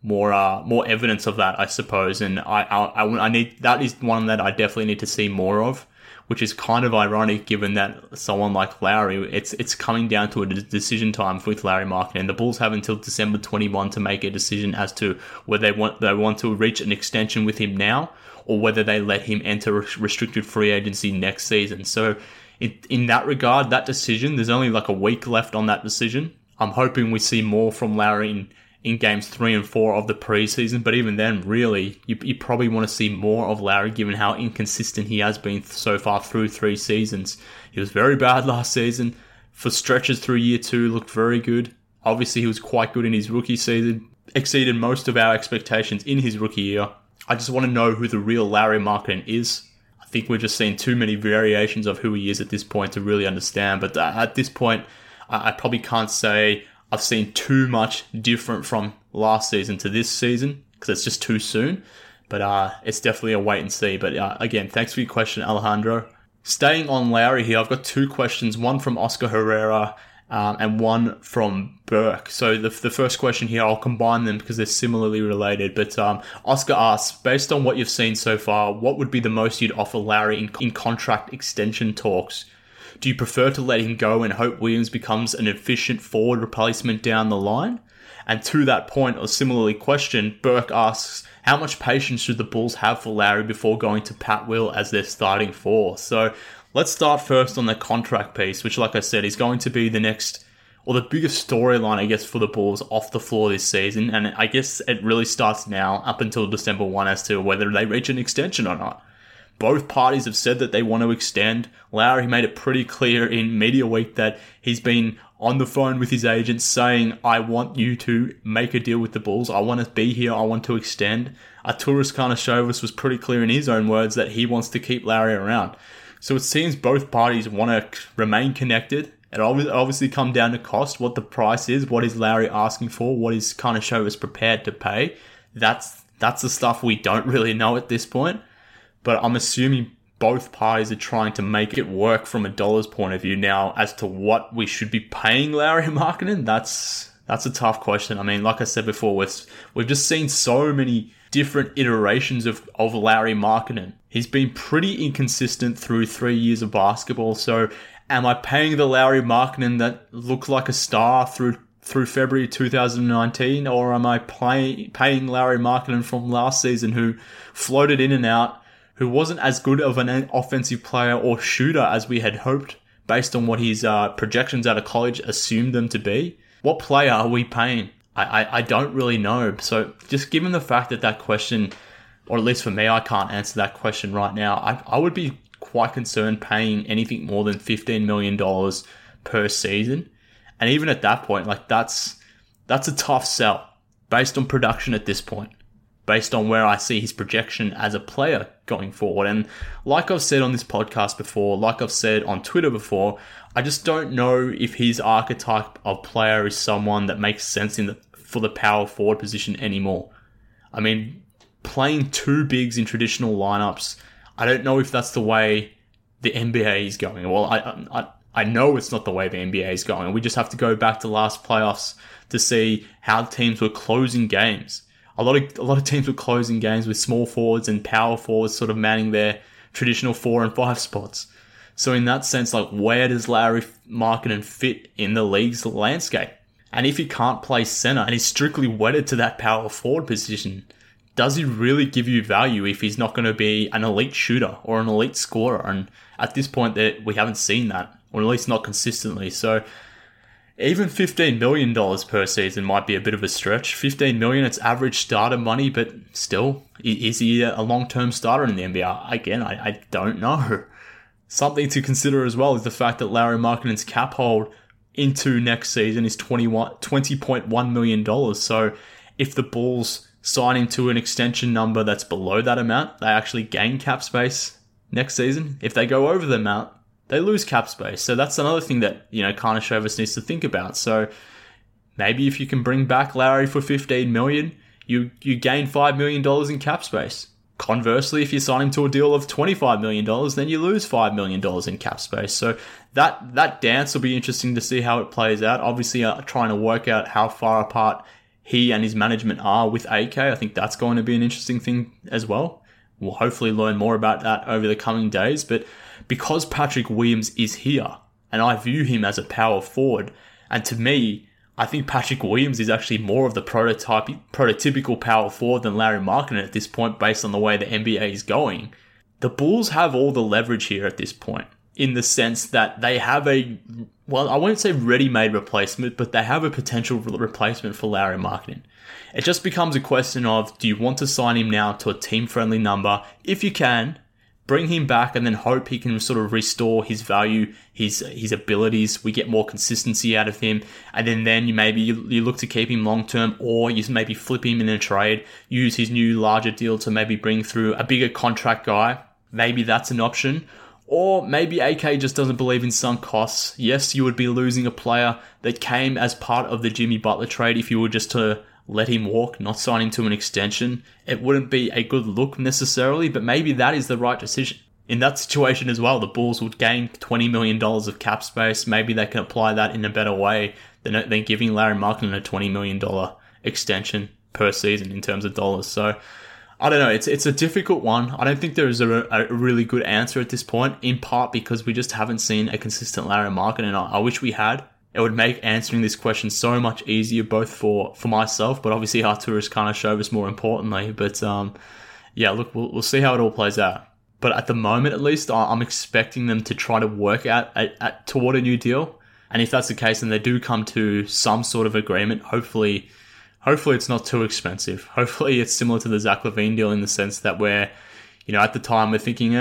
evidence of that, I suppose, and I need, that is one that I definitely need to see more of, which is kind of ironic given that someone like Lowry, it's coming down to a decision time with Lauri Markkanen. The Bulls have until December 21 to make a decision as to whether they want to reach an extension with him now, or whether they let him enter restricted free agency next season. So in that regard, that decision, there's only like a week left on that decision. I'm hoping we see more from Lowry in games 3 and 4 of the preseason, but even then, really, you probably want to see more of Lowry given how inconsistent he has been so far through 3 seasons. He was very bad last season. For stretches through year 2, looked very good. Obviously, he was quite good in his rookie season, exceeded most of our expectations in his rookie year. I just want to know who the real Lauri Markkanen is. I think we've just seen too many variations of who he is at this point to really understand, but at this point, I probably can't say I've seen too much different from last season to this season because it's just too soon. But it's definitely a wait and see. But again, thanks for your question, Alejandro. Staying on Lowry here, I've got 2 questions, one from Oscar Herrera and one from Burke. So the first question here, I'll combine them because they're similarly related. But Oscar asks, based on what you've seen so far, what would be the most you'd offer Lowry in contract extension talks? Do you prefer to let him go and hope Williams becomes an efficient forward replacement down the line? And to that point, or similarly questioned, Burke asks, how much patience should the Bulls have for Lowry before going to Pat Will as their starting 4? So let's start first on the contract piece, which, like I said, is going to be the next, or the biggest storyline, I guess, for the Bulls off the floor this season. And I guess it really starts now up until December 1 as to whether they reach an extension or not. Both parties have said that they want to extend. Lowry made it pretty clear in Media Week that he's been on the phone with his agents saying, I want you to make a deal with the Bulls. I want to be here. I want to extend. Arturas Karnisovas was pretty clear in his own words that he wants to keep Lowry around. So it seems both parties want to remain connected. It obviously come down to cost, what the price is, what is Lowry asking for, what is Karnisovas prepared to pay. That's the stuff we don't really know at this point. But I'm assuming both parties are trying to make it work from a dollars point of view. Now, as to what we should be paying Lauri Markkanen, that's a tough question. I mean, like I said before, we've just seen so many different iterations of Lauri Markkanen. He's been pretty inconsistent through 3 years of basketball. So am I paying the Lauri Markkanen that looked like a star through February 2019, or am I paying Lauri Markkanen from last season who floated in and out, who wasn't as good of an offensive player or shooter as we had hoped based on what his projections out of college assumed them to be? What player are we paying? I don't really know. So just given the fact that question, or at least for me, I can't answer that question right now, I would be quite concerned paying anything more than $15 million per season. And even at that point, like that's a tough sell based on production at this point, based on where I see his projection as a player going forward. And like I've said on this podcast before, like I've said on Twitter before, I just don't know if his archetype of player is someone that makes sense for the power forward position anymore. I mean, playing 2 bigs in traditional lineups, I don't know if that's the way the NBA is going. Well, I know it's not the way the NBA is going. We just have to go back to last playoffs to see how teams were closing games. a lot of teams were closing games with small forwards and power forwards sort of manning their traditional 4 and 5 spots. So in that sense, like, where does Lauri Markkanen fit in the league's landscape? And if he can't play center and he's strictly wedded to that power forward position, does he really give you value if he's not going to be an elite shooter or an elite scorer? And at this point, we haven't seen that, or at least not consistently. So even $15 million per season might be a bit of a stretch. $15 million, it's average starter money, but still, is he a long-term starter in the NBA? Again, I don't know. Something to consider as well is the fact that Lauri Markkanen's cap hold into next season is $20.1 million. So if the Bulls sign him to an extension number that's below that amount, they actually gain cap space next season. If they go over the amount, they lose cap space. So that's another thing that, Karnisovas needs to think about. So maybe if you can bring back Lauri for $15 million, you gain $5 million in cap space. Conversely, if you sign him to a deal of $25 million, then you lose $5 million in cap space. So that dance will be interesting to see how it plays out. Obviously, trying to work out how far apart he and his management are with AK. I think that's going to be an interesting thing as well. We'll hopefully learn more about that over the coming days. But because Patrick Williams is here, and I view him as a power forward, and to me, I think Patrick Williams is actually more of the prototypical power forward than Lauri Markkanen at this point based on the way the NBA is going. The Bulls have all the leverage here at this point, in the sense that they have I won't say ready-made replacement, but they have a potential replacement for Lauri Markkanen. It just becomes a question of, do you want to sign him now to a team-friendly number? If you can, bring him back and then hope he can sort of restore his value, his abilities. We get more consistency out of him. And then you look to keep him long-term, or you maybe flip him in a trade, use his new larger deal to maybe bring through a bigger contract guy. Maybe that's an option. Or maybe AK just doesn't believe in sunk costs. Yes, you would be losing a player that came as part of the Jimmy Butler trade if you were just to let him walk, not sign him to an extension. It wouldn't be a good look necessarily, but maybe that is the right decision. In that situation as well, the Bulls would gain $20 million of cap space. Maybe they can apply that in a better way than giving Lauri Markkanen a $20 million extension per season in terms of dollars. So I don't know. It's a difficult one. I don't think there is a really good answer at this point, in part because we just haven't seen a consistent Lauri Markkanen. I wish we had. It would make answering this question so much easier, both for myself, but obviously Arturas Karnisovas more importantly. But look, we'll see how it all plays out. But at the moment, at least, I'm expecting them to try to work out toward a new deal. And if that's the case, then they do come to some sort of agreement. Hopefully it's not too expensive. Hopefully it's similar to the Zach LaVine deal in the sense that we're, at the time we're thinking,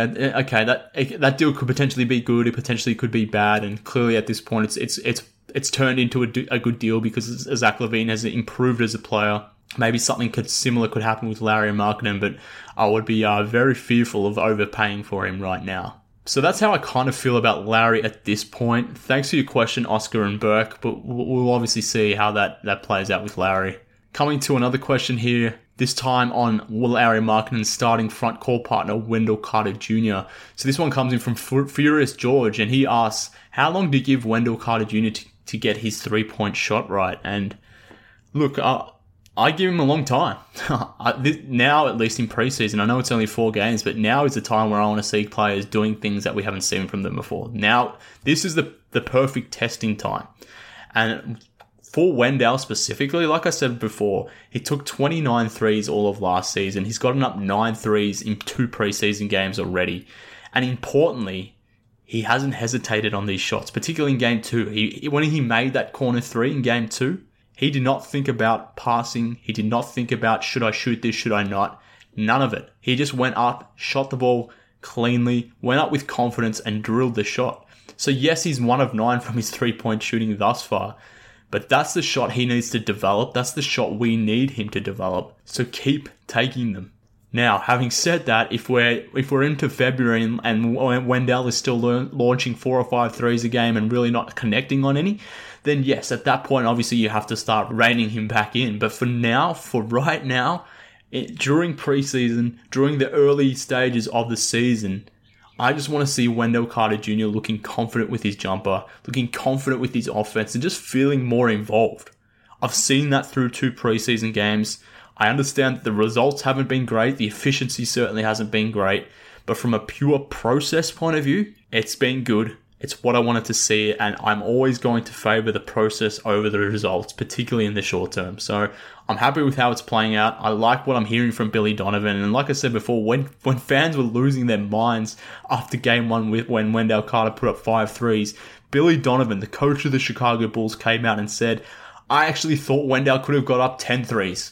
that deal could potentially be good. It potentially could be bad. And clearly at this point, it's turned into a good deal because Zach LaVine has improved as a player. Maybe something similar could happen with Lauri Markkanen, but I would be very fearful of overpaying for him right now. So that's how I kind of feel about Lauri at this point. Thanks for your question, Oscar and Burke, but we'll obviously see how that plays out with Lauri. Coming to another question here, this time on Lauri Markkanen's starting front court partner, Wendell Carter Jr. So this one comes in from Furious George, and he asks, how long do you give Wendell Carter Jr. to get his three-point shot right? And look, I give him a long time. Now, at least in preseason, I know it's only 4 games, but now is the time where I want to see players doing things that we haven't seen from them before. Now, this is the perfect testing time. And for Wendell specifically, like I said before, he took 29 threes all of last season. He's gotten up 9 threes in 2 preseason games already. And importantly, he hasn't hesitated on these shots, particularly in game 2. When he made that corner 3 in game 2, he did not think about passing. He did not think about, should I shoot this, should I not? None of it. He just went up, shot the ball cleanly, went up with confidence and drilled the shot. So yes, he's 1 of 9 from his 3-point shooting thus far, but that's the shot he needs to develop. That's the shot we need him to develop. So keep taking them. Now, having said that, if we're into February and Wendell is still launching 4 or 5 threes a game and really not connecting on any, then yes, at that point, obviously you have to start reining him back in. But for right now, during preseason, during the early stages of the season, I just want to see Wendell Carter Jr. looking confident with his jumper, looking confident with his offense, and just feeling more involved. I've seen that through 2 preseason games. I understand that the results haven't been great. The efficiency certainly hasn't been great. But from a pure process point of view, it's been good. It's what I wanted to see, and I'm always going to favour the process over the results, particularly in the short term. So I'm happy with how it's playing out. I like what I'm hearing from Billy Donovan, and like I said before, when fans were losing their minds after game one when Wendell Carter put up 5 threes, Billy Donovan, the coach of the Chicago Bulls, came out and said, I actually thought Wendell could have got up 10 threes.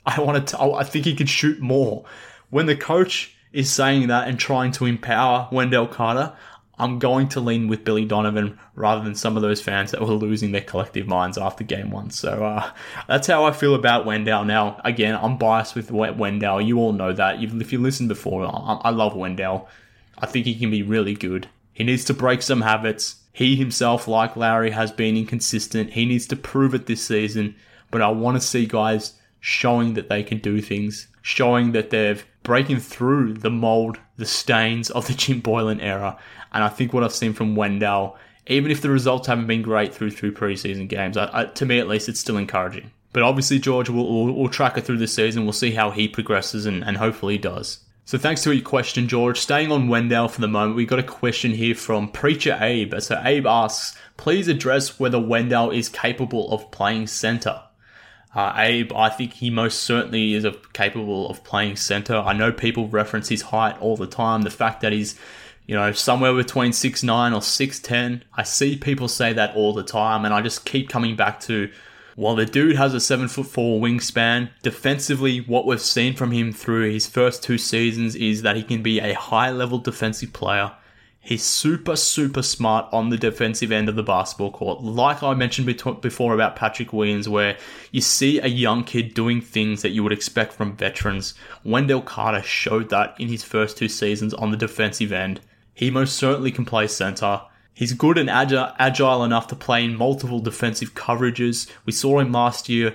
I think he could shoot more. When the coach is saying that and trying to empower Wendell Carter, I'm going to lean with Billy Donovan rather than some of those fans that were losing their collective minds after game one. So that's how I feel about Wendell. Now, again, I'm biased with Wendell. You all know that. If you listened before, I love Wendell. I think he can be really good. He needs to break some habits. He himself, like Lowry, has been inconsistent. He needs to prove it this season. But I want to see guys showing that they can do things, showing that they're breaking through the mold, the stains of the Jim Boylen era. And I think what I've seen from Wendell, even if the results haven't been great through preseason games, to me at least, it's still encouraging. But obviously, George, we'll track it through the season. We'll see how he progresses and hopefully he does. So thanks for your question, George. Staying on Wendell for the moment, we got a question here from Preacher Abe. So Abe asks, please address whether Wendell is capable of playing center. Abe, I think he most certainly is capable of playing center. I know people reference his height all the time. The fact that he's, somewhere between 6'9" or 6'10". I see people say that all the time, and I just keep coming back to, while the dude has a 7'4" wingspan, defensively, what we've seen from him through his first 2 seasons is that he can be a high-level defensive player. He's super, super smart on the defensive end of the basketball court. Like I mentioned before about Patrick Williams, where you see a young kid doing things that you would expect from veterans. Wendell Carter showed that in his first 2 seasons on the defensive end. He most certainly can play center. He's good and agile enough to play in multiple defensive coverages. We saw him last year,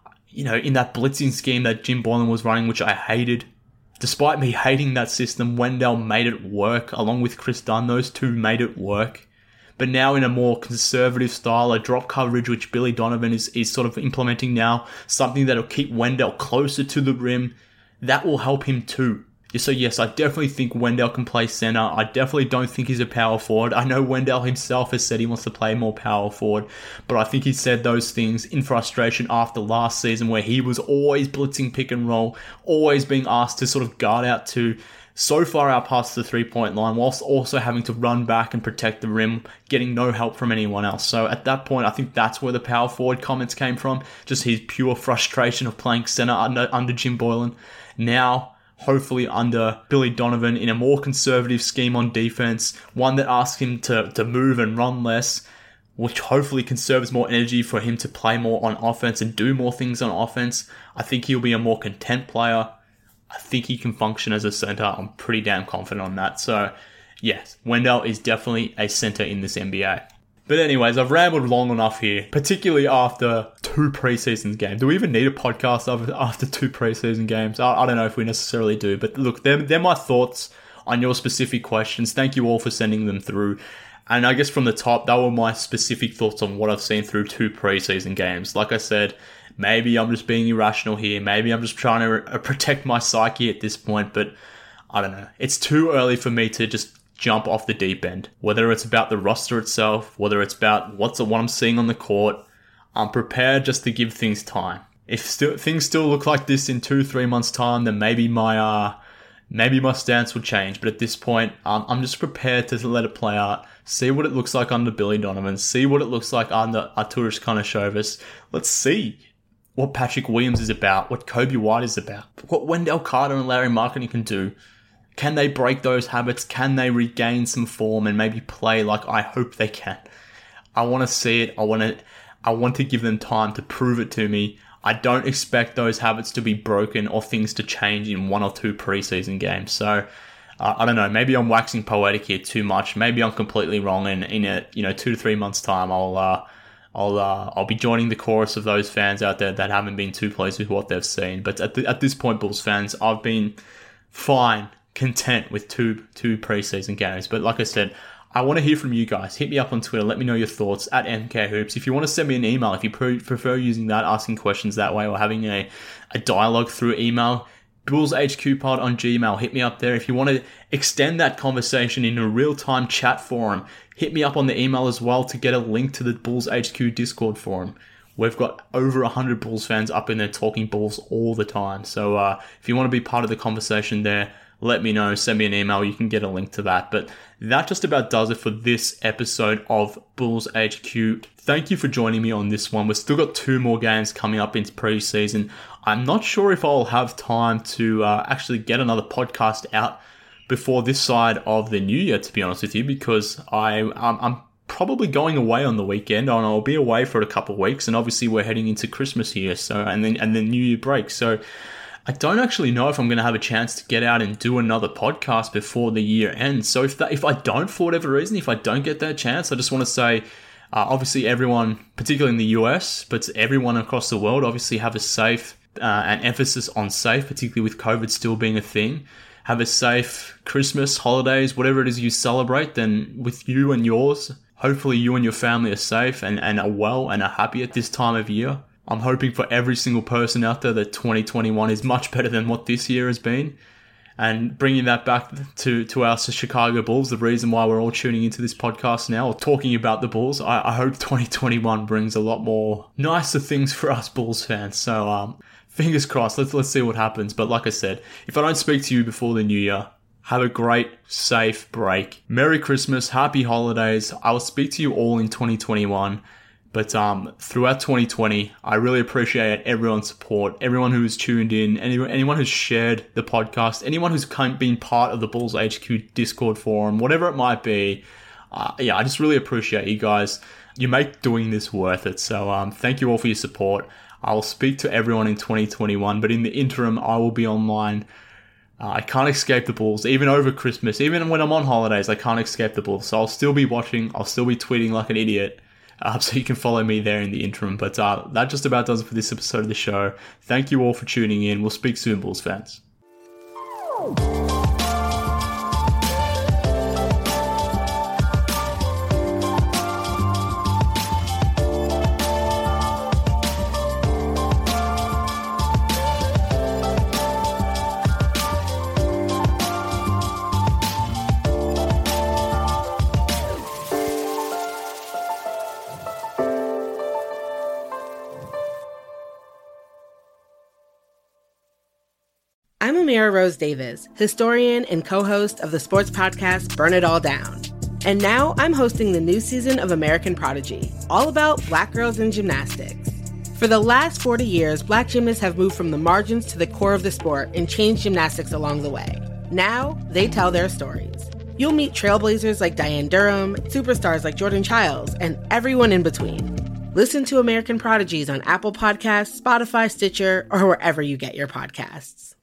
in that blitzing scheme that Jim Boylen was running, which I hated. Despite me hating that system, Wendell made it work, along with Chris Dunn. Those two made it work. But now in a more conservative style, a drop coverage, which Billy Donovan is sort of implementing now, something that'll keep Wendell closer to the rim, that will help him too. So yes, I definitely think Wendell can play center. I definitely don't think he's a power forward. I know Wendell himself has said he wants to play more power forward, but I think he said those things in frustration after last season, where he was always blitzing pick and roll, always being asked to sort of guard out to so far out past the 3-point line, whilst also having to run back and protect the rim, getting no help from anyone else. So at that point, I think that's where the power forward comments came from, just his pure frustration of playing center under Jim Boylen. Now, hopefully under Billy Donovan, in a more conservative scheme on defense, one that asks him to move and run less, which hopefully conserves more energy for him to play more on offense and do more things on offense. I think he'll be a more content player. I think he can function as a center. I'm pretty damn confident on that. So, yes, Wendell is definitely a center in this NBA. But anyways, I've rambled long enough here, particularly after 2 preseason games. Do we even need a podcast after 2 preseason games? I don't know if we necessarily do. But look, they're my thoughts on your specific questions. Thank you all for sending them through. And I guess from the top, that were my specific thoughts on what I've seen through 2 preseason games. Like I said, maybe I'm just being irrational here. Maybe I'm just trying to protect my psyche at this point. But I don't know. It's too early for me to just jump off the deep end. Whether it's about the roster itself, whether it's about what I'm seeing on the court, I'm prepared just to give things time. If things still look like this in 2-3 months' time, then maybe my stance will change. But at this point, I'm just prepared to let it play out, see what it looks like under Billy Donovan, see what it looks like under Arturas Karnisovas. Let's see what Patrick Williams is about, what Kobe White is about, what Wendell Carter and Larry Markkinen can do. Can they break those habits? Can they regain some form and maybe play like I hope they can? I want to see it. I want to give them time to prove it to me. I don't expect those habits to be broken or things to change in 1 or 2 preseason games. So I don't know. Maybe I'm waxing poetic here too much. Maybe I'm completely wrong. And in a 2 to 3 months time, I'll be joining the chorus of those fans out there that haven't been too pleased with what they've seen. But at this point, Bulls fans, I've been fine, content with two preseason games. But like I said, I want to hear from you guys. Hit me up on Twitter. Let me know your thoughts at MKHoops. If you want to send me an email, if you prefer using that, asking questions that way, or having a dialogue through email, BullsHQPod on Gmail. Hit me up there. If you want to extend that conversation in a real-time chat forum, hit me up on the email as well to get a link to the Bulls HQ Discord forum. We've got over 100 Bulls fans up in there talking Bulls all the time. So if you want to be part of the conversation there, let me know. Send me an email. You can get a link to that. But that just about does it for this episode of Bulls HQ. Thank you for joining me on this one. We've still got 2 more games coming up into preseason. I'm not sure if I'll have time to actually get another podcast out before this side of the new year, to be honest with you, because I'm probably going away on the weekend, and I'll be away for a couple of weeks, and obviously we're heading into Christmas here, so and then New Year break. So I don't actually know if I'm going to have a chance to get out and do another podcast before the year ends. So if I don't, for whatever reason, if I don't get that chance, I just want to say, obviously everyone, particularly in the US, but everyone across the world, obviously have a safe and emphasis on safe, particularly with COVID still being a thing. Have a safe Christmas, holidays, whatever it is you celebrate, then with you and yours, hopefully you and your family are safe and are well and are happy at this time of year. I'm hoping for every single person out there that 2021 is much better than what this year has been. And bringing that back to our Chicago Bulls, the reason why we're all tuning into this podcast now, or talking about the Bulls, I hope 2021 brings a lot more nicer things for us Bulls fans. So fingers crossed, let's see what happens. But like I said, if I don't speak to you before the new year, have a great, safe break. Merry Christmas, happy holidays. I will speak to you all in 2021. But throughout 2020, I really appreciate everyone's support, everyone who has tuned in, anyone who's shared the podcast, anyone who's been part of the Bulls HQ Discord forum, whatever it might be. I just really appreciate you guys. You make doing this worth it. So thank you all for your support. I will speak to everyone in 2021, but in the interim, I will be online. I can't escape the Bulls, even over Christmas, even when I'm on holidays, I can't escape the Bulls. So I'll still be watching, I'll still be tweeting like an idiot. So you can follow me there in the interim. But that just about does it for this episode of the show. Thank you all for tuning in. We'll speak soon, Bulls fans. I'm Amira Rose Davis, historian and co-host of the sports podcast Burn It All Down. And now I'm hosting the new season of American Prodigy, all about Black girls in gymnastics. For the last 40 years, Black gymnasts have moved from the margins to the core of the sport and changed gymnastics along the way. Now, they tell their stories. You'll meet trailblazers like Diane Durham, superstars like Jordan Childs, and everyone in between. Listen to American Prodigies on Apple Podcasts, Spotify, Stitcher, or wherever you get your podcasts.